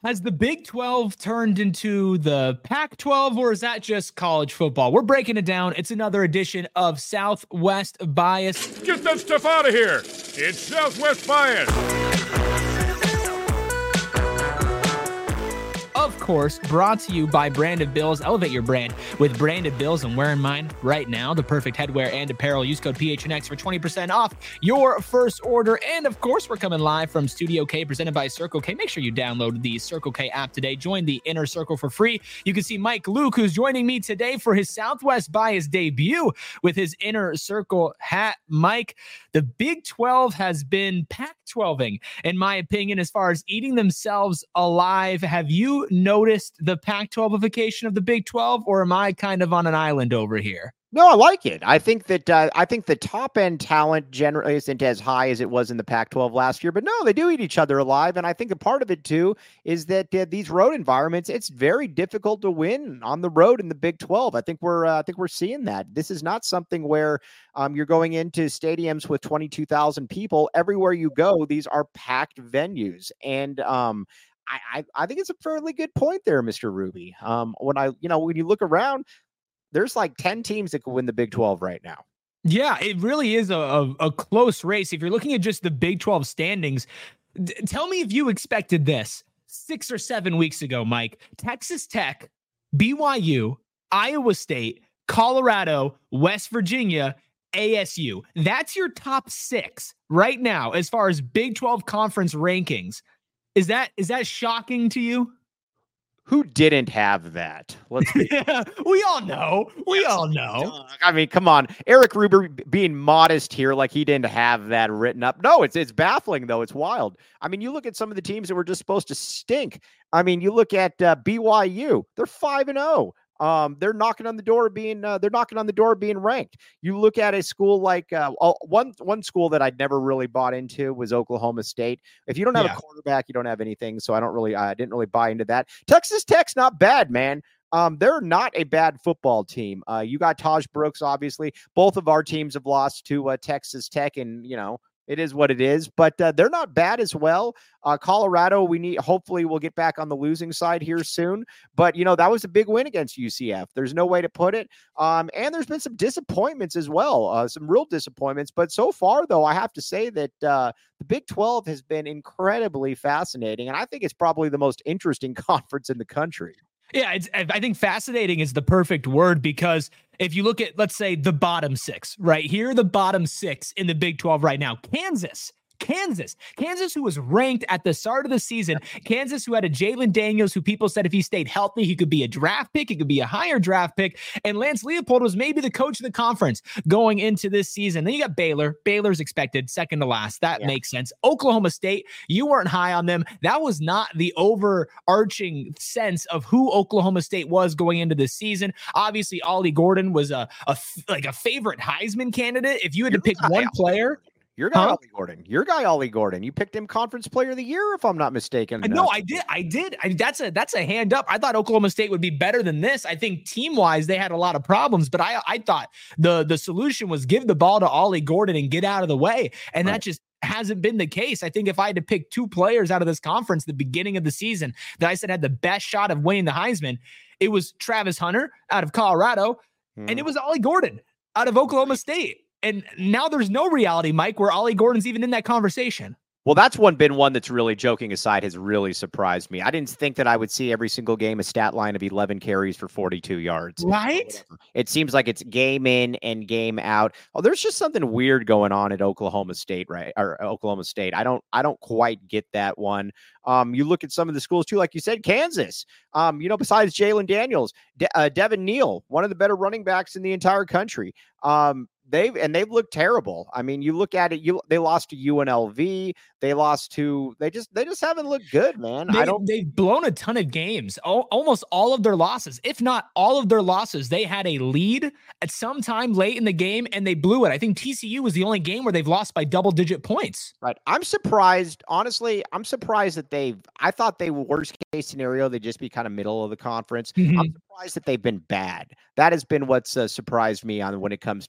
Has the Big 12 turned into the Pac 12, or is that just college football? We're breaking it down. It's another edition of Southwest Bias. Get that stuff out of here. It's Southwest Bias. Of course, brought to you by Branded Bills. Elevate your brand with Branded Bills. I'm wearing mine right now, the perfect headwear and apparel. Use code PHNX for 20% off your first order. And of course, we're coming live from Studio K, presented by Circle K. Make sure you download the Circle K app today. Join the Inner Circle for free. You can see Mike Luke, who's joining me today for his Southwest Bias debut with his Inner Circle hat. Mike, the Big 12 has been Pac-12ing, in my opinion, as far as eating themselves alive. Have you noticed the Pac-12ification of the Big 12, or am I kind of on an island over here? No, I like it. I think that the top end talent generally isn't as high as it was in the Pac-12 last year, but no, they do eat each other alive. And I think a part of it too is that these road environments, it's very difficult to win on the road in the Big 12. I think we're seeing that. This is not something where you're going into stadiums with 22,000 people everywhere you go. These are packed venues, and I think it's a fairly good point there, Mr. Ruby. When you look around, there's like 10 teams that could win the Big 12 right now. Yeah, it really is a close race. If you're looking at just the Big 12 standings, tell me if you expected this 6 or 7 weeks ago, Mike. Texas Tech, BYU, Iowa State, Colorado, West Virginia, ASU. That's your top 6 right now as far as Big 12 conference rankings. Is that shocking to you? Who didn't have that? Yeah, we all know. We all know. I mean, come on. Eric Ruber being modest here, like he didn't have that written up. No, it's baffling, though. It's wild. I mean, you look at some of the teams that were just supposed to stink. I mean, you look at BYU. They're 5-0. They're knocking on the door of being ranked. You look at a school like one school that I'd never really bought into was Oklahoma State. If you don't have a quarterback, you don't have anything. So I didn't really buy into that. Texas Tech's not bad, man. They're not a bad football team. You got Taj Brooks, obviously. Both of our teams have lost to Texas Tech, and it is what it is, but they're not bad as well. Colorado, hopefully we'll get back on the losing side here soon, but that was a big win against UCF. There's no way to put it. And there's been some disappointments as well, some real disappointments, but so far though, I have to say that the Big 12 has been incredibly fascinating. And I think it's probably the most interesting conference in the country. Yeah, I think fascinating is the perfect word, because if you look at, let's say, the bottom 6, right? Here are the bottom 6 in the Big 12 right now. Kansas, who was ranked at the start of the season. Kansas, who had a Jalen Daniels, who people said if he stayed healthy, he could be a draft pick. He could be a higher draft pick. And Lance Leopold was maybe the coach of the conference going into this season. Then you got Baylor. Baylor's expected second to last. That makes sense. Oklahoma State, you weren't high on them. That was not the overarching sense of who Oklahoma State was going into this season. Obviously, Ollie Gordon was a favorite Heisman candidate. If you had to pick one player. Your guy, Ollie Gordon. You picked him Conference Player of the Year, if I'm not mistaken. No, I did. That's a hand up. I thought Oklahoma State would be better than this. I think team-wise, they had a lot of problems, but I thought the solution was give the ball to Ollie Gordon and get out of the way. And that just hasn't been the case. I think if I had to pick 2 players out of this conference at the beginning of the season that I said had the best shot of winning the Heisman, it was Travis Hunter out of Colorado, and it was Ollie Gordon out of Oklahoma State. And now there's no reality, Mike, where Ollie Gordon's even in that conversation. Well, that's been one that's really, joking aside, has really surprised me. I didn't think that I would see every single game a stat line of 11 carries for 42 yards. Right? It seems like it's game in and game out. Oh, there's just something weird going on at Oklahoma State, right? Or Oklahoma State. I don't quite get that one. You look at some of the schools too, like you said, Kansas. Besides Jalen Daniels, Devin Neal, one of the better running backs in the entire country. They've looked terrible. I mean, you look at it, they lost to UNLV. They just haven't looked good, man. They've blown a ton of games. Almost all of their losses, if not all of their losses, they had a lead at some time late in the game and they blew it. I think TCU was the only game where they've lost by double-digit points. Right. I'm surprised. Honestly, I'm surprised that I thought they were worst case scenario, they'd just be kind of middle of the conference. Mm-hmm. I'm surprised that they've been bad. That has been what's surprised me on when it comes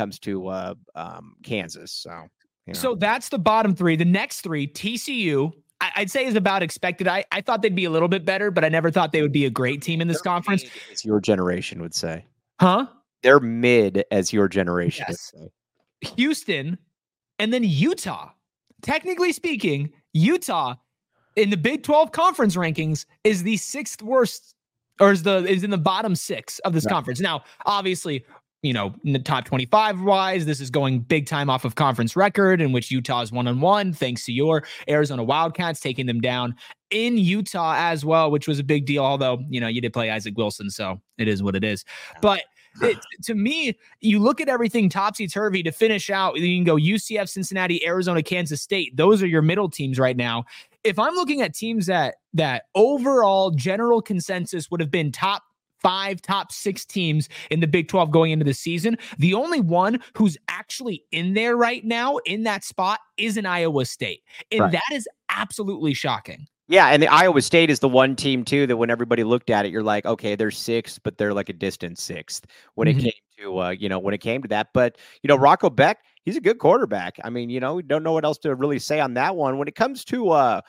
to Kansas. So that's the bottom 3. The next 3, TCU, I'd say is about expected. I thought they'd be a little bit better, but I never thought they would be a great team in this conference. As your generation would say. Huh? They're mid as your generation Yes. would say. Houston and then Utah. Technically speaking, Utah in the Big 12 conference rankings is the sixth worst, or is in the bottom six of this conference. Now, obviously, in the top 25 wise, this is going big time off of conference record in which Utah is 1-1, thanks to your Arizona Wildcats taking them down in Utah as well, which was a big deal. Although, you did play Isaac Wilson, so it is what it is. But to me, you look at everything topsy-turvy to finish out. You can go UCF, Cincinnati, Arizona, Kansas State. Those are your middle teams right now. If I'm looking at teams that overall general consensus would have been top 5, top 6 teams in the Big 12 going into the season, the only one who's actually in there right now in that spot is an Iowa State. And that is absolutely shocking. Yeah, and the Iowa State is the one team too that when everybody looked at it, you're like, okay, they're 6th, but they're like a distant 6th when it came to when it came to that. But Rocco Beck, he's a good quarterback. I mean, we don't know what else to really say on that one. When it comes to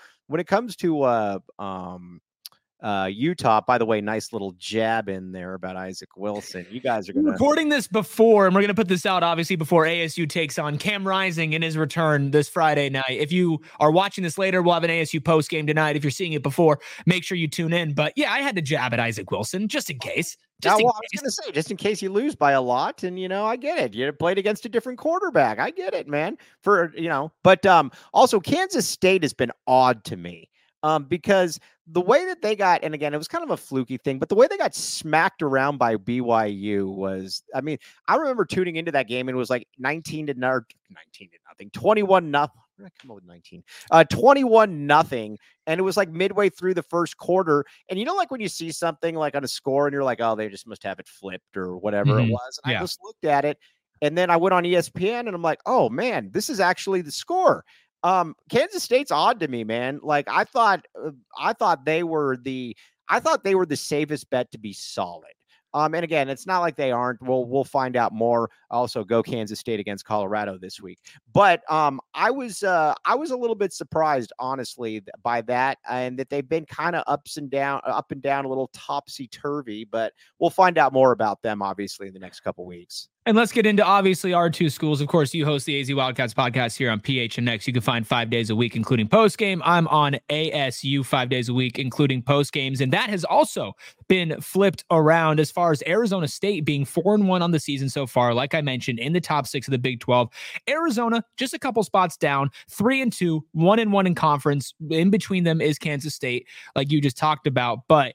Utah, by the way, nice little jab in there about Isaac Wilson. You guys are going to recording this before, and we're going to put this out obviously before ASU takes on Cam Rising in his return this Friday night. If you are watching this later, we'll have an ASU post game tonight. If you're seeing it before, make sure you tune in. But yeah, I had to jab at Isaac Wilson just in case. I was going to say, just in case you lose by a lot, and I get it. You played against a different quarterback. I get it, man. But also Kansas State has been odd to me. Because the way that they got, and again, it was kind of a fluky thing, but the way they got smacked around by BYU was, I mean, I remember tuning into that game and it was like 19 to nothing, 21 nothing. Where did I come up with 19? 21 nothing. And it was like midway through the first quarter. And like when you see something like on a score and you're like, oh, they just must have it flipped or whatever it was. And I just looked at it and then I went on ESPN and I'm like, oh man, this is actually the score. Kansas State's odd to me, man. Like I thought they were the safest bet to be solid. And again, it's not like they aren't. We'll find out more. Also, go Kansas State against Colorado this week. But I was a little bit surprised, honestly, by that, and that they've been kind of up and down, a little topsy turvy. But we'll find out more about them, obviously, in the next couple weeks. And let's get into, obviously, our two schools. Of course, you host the AZ Wildcats podcast here on PHNX. You can find 5 days a week, including postgame. I'm on ASU 5 days a week, including postgames. And that has also been flipped around as far as Arizona State being 4-1 on the season so far. Like I mentioned, in the top 6 of the Big 12. Arizona, just a couple spots down, 3-2, 1-1 in conference. In between them is Kansas State, like you just talked about. But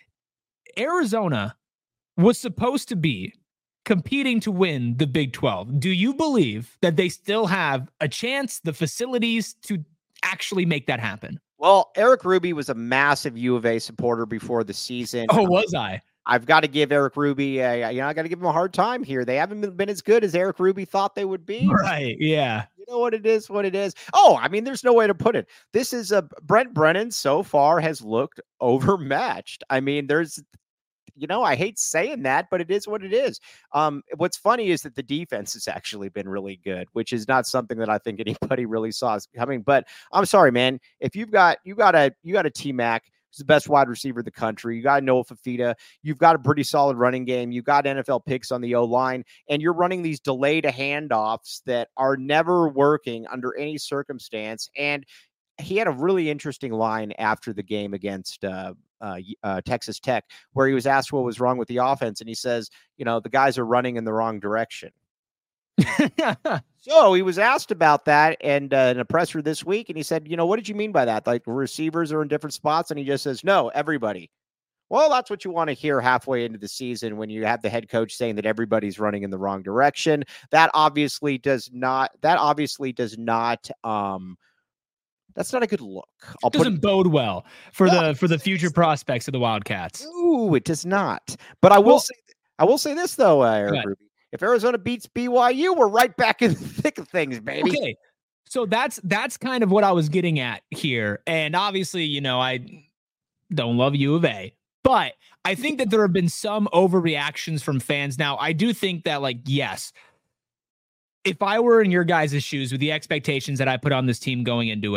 Arizona was supposed to be competing to win the Big 12. Do you believe that they still have a chance, the facilities to actually make that happen? Well, Eric Ruby was a massive U of A supporter before the season. Oh, was I? I've got to give Eric Ruby I got to give him a hard time here. They haven't been as good as Eric Ruby thought they would be. Right. Yeah. You know what it is? Oh, I mean, there's no way to put it. This is Brent Brennan so far has looked overmatched. I mean, I hate saying that, but it is what it is. What's funny is that the defense has actually been really good, which is not something that I think anybody really saw coming. But I'm sorry, man. If you got a T-Mac, who's the best wide receiver in the country, you got Noah Fafita, you've got a pretty solid running game, you've got NFL picks on the O-line, and you're running these delayed handoffs that are never working under any circumstance. And he had a really interesting line after the game against Texas Tech, where he was asked what was wrong with the offense, and he says, the guys are running in the wrong direction. So he was asked about that and in a presser this week, and he said, what did you mean by that? Like receivers are in different spots? And he just says, no, everybody. Well, that's what you want to hear halfway into the season when you have the head coach saying that everybody's running in the wrong direction. That's not a good look. It doesn't bode well for the future prospects of the Wildcats. Ooh, it does not. But I will say this though, Eric Ruby. If Arizona beats BYU, we're right back in the thick of things, baby. Okay, so that's kind of what I was getting at here, and obviously, I don't love U of A, but I think that there have been some overreactions from fans. Now, I do think that, yes, if I were in your guys' shoes with the expectations that I put on this team going into it,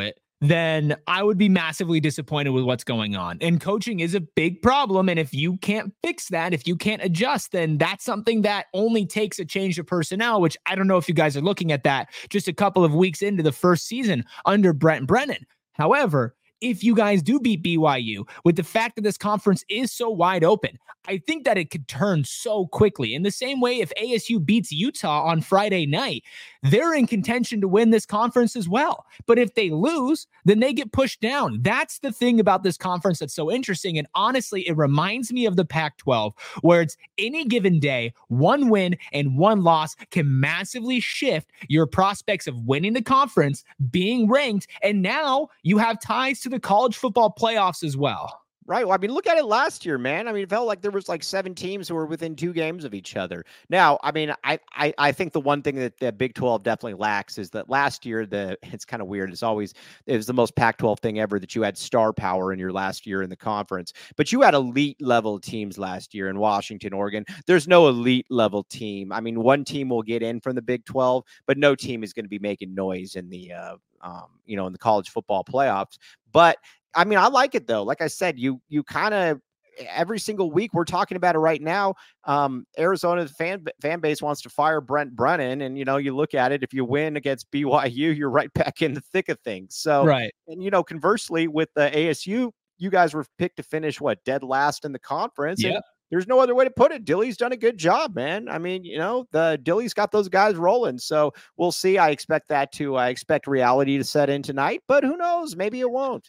then I would be massively disappointed with what's going on. And coaching is a big problem. And if you can't fix that, if you can't adjust, then that's something that only takes a change of personnel, which I don't know if you guys are looking at that just a couple of weeks into the first season under Brent Brennan. However, if you guys do beat BYU, with the fact that this conference is so wide open, I think that it could turn so quickly. In the same way, if ASU beats Utah on Friday night, they're in contention to win this conference as well. But if they lose, then they get pushed down. That's the thing about this conference that's so interesting. And honestly, it reminds me of the Pac-12, where it's any given day, one win and one loss can massively shift your prospects of winning the conference, being ranked, and now you have ties to the college football playoffs as well. Right. Well, I mean, look at it last year, man. I mean, it felt like there was like 7 teams who were within 2 games of each other. Now, I mean, I think the one thing that the Big 12 definitely lacks is that last year, it's kind of weird. It was the most Pac-12 thing ever that you had star power in your last year in the conference, but you had elite level teams last year in Washington, Oregon. There's no elite level team. I mean, one team will get in from the Big 12, but no team is going to be making noise in the, in the college football playoffs. But I mean, I like it though. Like I said, you kind of every single week we're talking about it right now. Arizona's fan base wants to fire Brent Brennan, and you look at it. If you win against BYU, you're right back in the thick of things. So, right. And conversely, with the ASU, you guys were picked to finish dead last in the conference. Yeah. And there's no other way to put it. Dilly's done a good job, man. I mean, the Dilly's got those guys rolling. So we'll see. I expect reality to set in tonight, but who knows? Maybe it won't.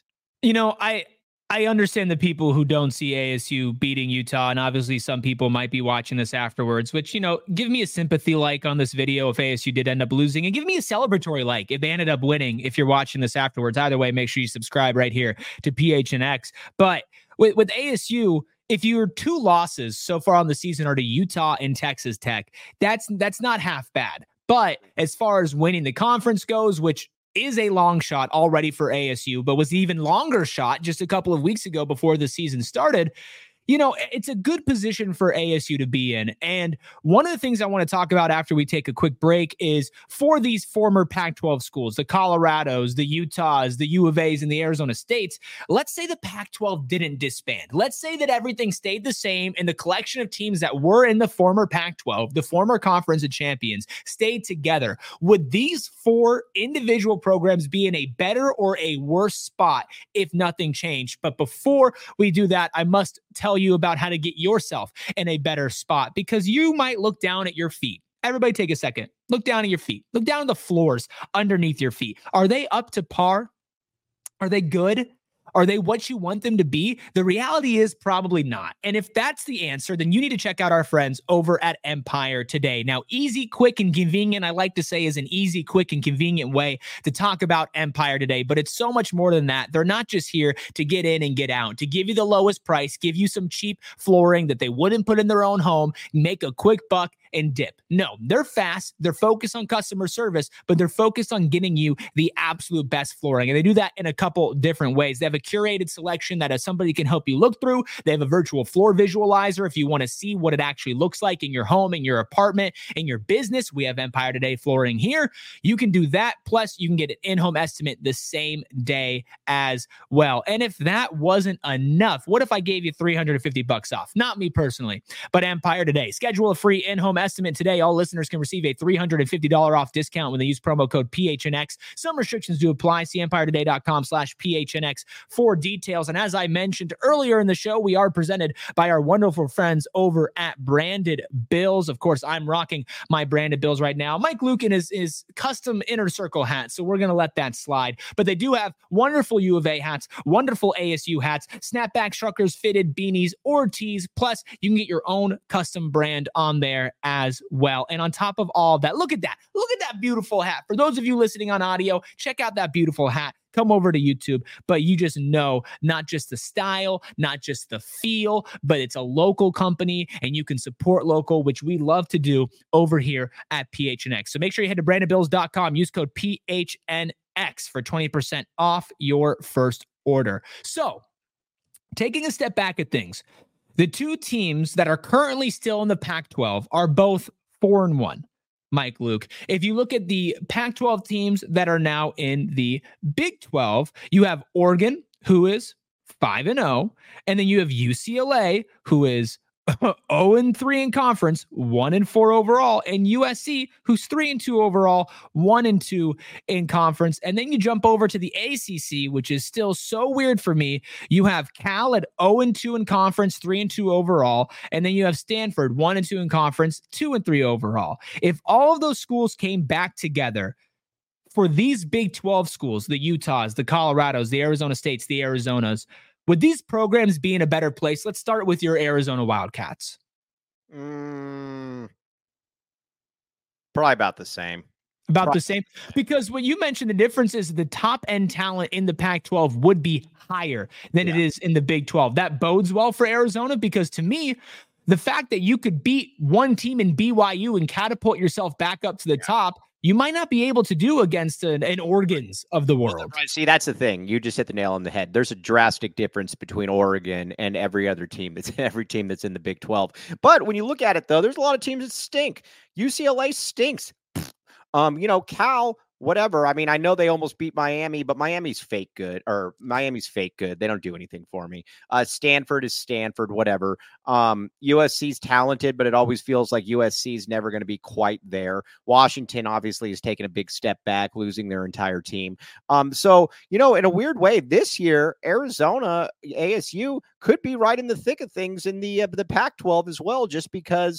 I understand the people who don't see ASU beating Utah, and obviously some people might be watching this afterwards, which, give me a sympathy like on this video if ASU did end up losing, and give me a celebratory like if they ended up winning if you're watching this afterwards. Either way, make sure you subscribe right here to PHNX. But with ASU, if your 2 losses so far on the season are to Utah and Texas Tech, that's not half bad. But as far as winning the conference goes, which is a long shot already for ASU, but was even longer shot just a couple of weeks ago before the season started, it's a good position for ASU to be in. And one of the things I want to talk about after we take a quick break is for these former Pac-12 schools, the Colorados, the Utahs, the U of A's, and the Arizona States. Let's say the Pac-12 didn't disband. Let's say that everything stayed the same and the collection of teams that were in the former Pac-12, the former Conference of Champions, stayed together. Would these 4 individual programs be in a better or a worse spot if nothing changed? But before we do that, I must tell you about how to get yourself in a better spot, because you might look down at your feet. Everybody take a second. Look down at your feet. Look down at the floors underneath your feet. Are they up to par? Are they good? Are they what you want them to be? The reality is probably not. And if that's the answer, then you need to check out our friends over at Empire today. Now, easy, quick, and convenient, I like to say, is an easy, quick, and convenient way to talk about Empire today. But it's so much more than that. They're not just here to get in and get out, to give you the lowest price, give you some cheap flooring that they wouldn't put in their own home, make a quick buck, and dip. No, they're fast. They're focused on customer service, but they're focused on getting you the absolute best flooring. And they do that in a couple different ways. They have a curated selection that somebody can help you look through. They have a virtual floor visualizer if you want to see what it actually looks like in your home, in your apartment, in your business. We have Empire Today flooring here. You can do that. Plus, you can get an in-home estimate the same day as well. And if that wasn't enough, what if I gave you $350 off? Not me personally, but Empire Today. Schedule a free in-home estimate today. All listeners can receive a $350 off discount when they use promo code PHNX. Some restrictions do apply. See EmpireToday.com/PHNX for details. And as I mentioned earlier in the show, we are presented by our wonderful friends over at Branded Bills. Of course, I'm rocking my Branded Bills right now. Mike Lukin is custom inner circle hat, so we're going to let that slide. But they do have wonderful U of A hats, wonderful ASU hats, snapback truckers, fitted beanies, or tees. Plus, you can get your own custom brand on there as well. And on top of all that, look at that. Look at that beautiful hat. For those of you listening on audio, check out that beautiful hat. Come over to YouTube, but you just know not just the style, not just the feel, but it's a local company and you can support local, which we love to do over here at PHNX. So make sure you head to brandedbills.com, use code PHNX for 20% off your first order. So taking a step back at things, the 2 teams that are currently still in the Pac-12 are both 4-1. Mike Luke. If you look at the Pac-12 teams that are now in the Big 12, you have Oregon, who is 5-0, and then you have UCLA, who is 0-3 in conference, 1-4 overall, and USC, who's 3-2 overall, 1-2 in conference. And then you jump over to the ACC, which is still so weird for me. You have Cal at 0-2 in conference, 3-2 overall, and then you have Stanford 1-2 in conference, 2-3 overall. If all of those schools came back together for these Big 12 schools, the Utahs, the Colorados, the Arizona States, the Arizonas, would these programs be in a better place? Let's start with your Arizona Wildcats. Probably about the same. The same? Because what you mentioned, the difference is the top end talent in the Pac-12 would be higher than it is in the Big 12. That bodes well for Arizona because to me, the fact that you could beat one team in BYU and catapult yourself back up to the top, you might not be able to do against an Oregon's of the world. See, that's the thing. You just hit the nail on the head. There's a drastic difference between Oregon and every other team. Every team that's in the Big 12. But when you look at it, though, there's a lot of teams that stink. UCLA stinks. Cal, whatever. I mean, I know they almost beat Miami, but Miami's fake good. They don't do anything for me. Stanford is Stanford, whatever. USC's talented, but it always feels like USC is never going to be quite there. Washington obviously has taken a big step back, losing their entire team. So, in a weird way, this year, Arizona, ASU could be right in the thick of things in the Pac-12 as well, just because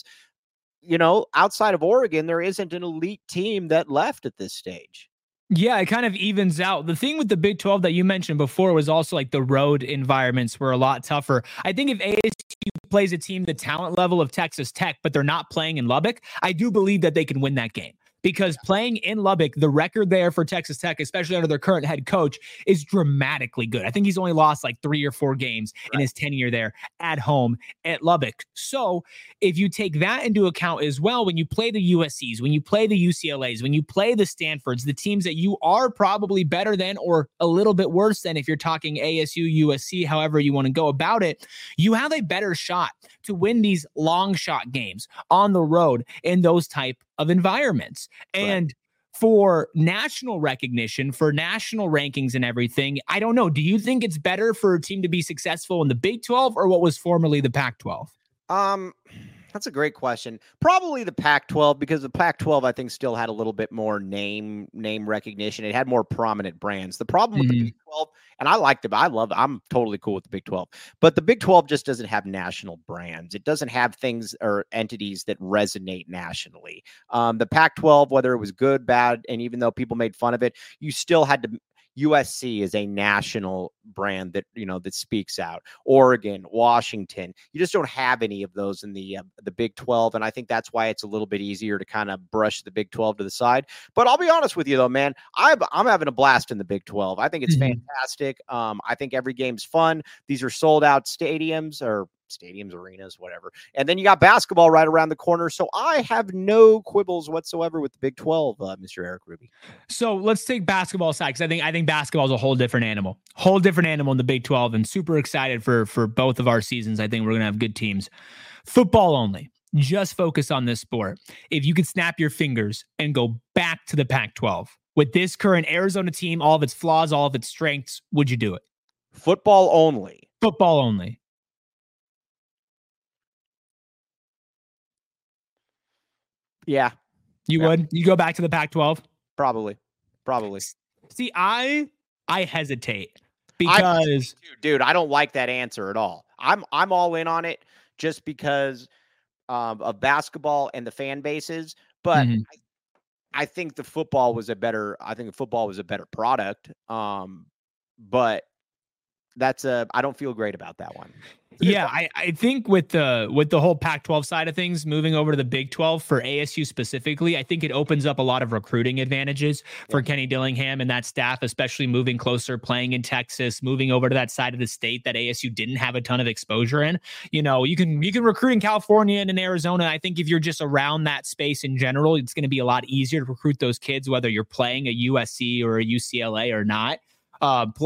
outside of Oregon, there isn't an elite team that left at this stage. Yeah, it kind of evens out. The thing with the Big 12 that you mentioned before was also like the road environments were a lot tougher. I think if ASU plays a team the talent level of Texas Tech, but they're not playing in Lubbock, I do believe that they can win that game. Because playing in Lubbock, the record there for Texas Tech, especially under their current head coach, is dramatically good. I think he's only lost like 3 or 4 games in his tenure there at home at Lubbock. So if you take that into account as well, when you play the USCs, when you play the UCLAs, when you play the Stanfords, the teams that you are probably better than or a little bit worse than if you're talking ASU, USC, however you want to go about it, you have a better shot to win these long shot games on the road in those type of environments. And for national recognition, for national rankings and everything, I don't know. Do you think it's better for a team to be successful in the Big 12 or what was formerly the Pac-12? That's a great question. Probably the Pac-12, because the Pac-12, I think, still had a little bit more name recognition. It had more prominent brands. The problem with the Big 12, and I liked it, I'm totally cool with the Big 12, but the Big 12 just doesn't have national brands. It doesn't have things or entities that resonate nationally. The Pac-12, whether it was good, bad, and even though people made fun of it, you still had to. USC is a national brand that, that speaks out. Oregon, Washington, you just don't have any of those in the Big 12. And I think that's why it's a little bit easier to kind of brush the Big 12 to the side. But I'll be honest with you though, man, I'm having a blast in the Big 12. I think it's fantastic. I think every game's fun. These are sold out stadiums, arenas, whatever. And then you got basketball right around the corner. So I have no quibbles whatsoever with the Big 12, Mr. Eric Ruby. So let's take basketball aside, because I think basketball is a whole different animal in the Big 12, and super excited for both of our seasons. I think we're going to have good teams. Football only. Just focus on this sport. If you could snap your fingers and go back to the Pac-12 with this current Arizona team, all of its flaws, all of its strengths, would you do it? Football only. Football only. Yeah. You would? You go back to the Pac-12? Probably. See, I hesitate because dude, I don't like that answer at all. I'm all in on it just because of basketball and the fan bases, but I think the football was a better product. But I don't feel great about that one. Yeah, I think with the whole Pac-12 side of things, moving over to the Big 12 for ASU specifically, I think it opens up a lot of recruiting advantages for Kenny Dillingham and that staff, especially moving closer, playing in Texas, moving over to that side of the state that ASU didn't have a ton of exposure in. You can recruit in California and in Arizona. I think if you're just around that space in general, it's going to be a lot easier to recruit those kids, whether you're playing a USC or a UCLA or not. Plus,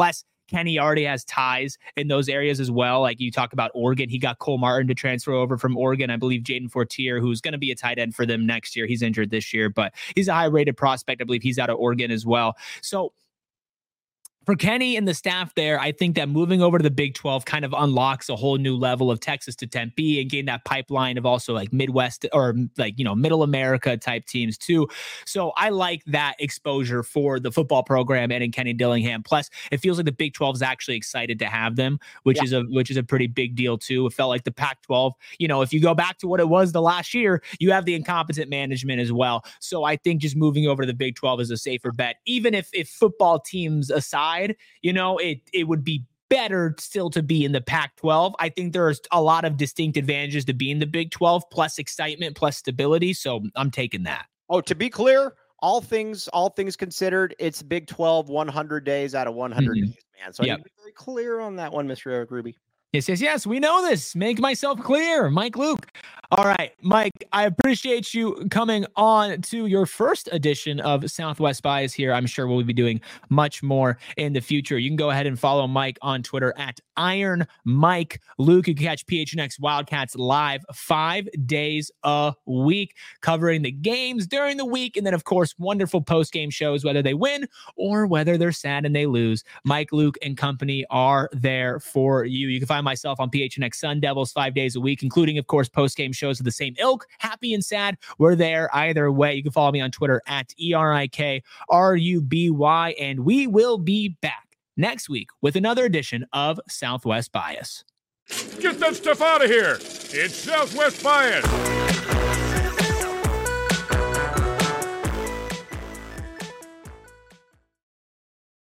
Kenny already has ties in those areas as well. Like you talk about Oregon, he got Cole Martin to transfer over from Oregon. I believe Jaden Fortier, who's going to be a tight end for them next year. He's injured this year, but he's a high-rated prospect. I believe he's out of Oregon as well. So for Kenny and the staff there, I think that moving over to the Big 12 kind of unlocks a whole new level of Texas to Tempe and gain that pipeline of also like Midwest or like, Middle America type teams too. So I like that exposure for the football program and in Kenny Dillingham. Plus, it feels like the Big 12 is actually excited to have them, which is a pretty big deal too. It felt like the Pac-12, if you go back to what it was the last year, you have the incompetent management as well. So I think just moving over to the Big 12 is a safer bet, even if football teams aside, it would be better still to be in the Pac-12. I think there's a lot of distinct advantages to be in the Big 12, plus excitement, plus stability. So I'm taking that. Oh, to be clear, all things considered, it's Big 12 100 days out of 100 days, man. So I need to be very clear on that one, Mr. Eric Ruby. Yes. We know this. Make myself clear. Mike Luke. All right, Mike, I appreciate you coming on to your first edition of Southwest Bias here. I'm sure we'll be doing much more in the future. You can go ahead and follow Mike on Twitter at Iron Mike Luke. You can catch PHNX Wildcats live 5 days a week, covering the games during the week. And then, of course, wonderful post-game shows, whether they win or whether they're sad and they lose. Mike Luke and company are there for you. You can find myself on PHNX Sun Devils 5 days a week, including, of course, post-game shows of the same ilk, happy and sad. We're there either way. You can follow me on Twitter at ERIKRUBY, and we will be back next week with another edition of Southwest Bias. Get that stuff out of here. It's Southwest Bias.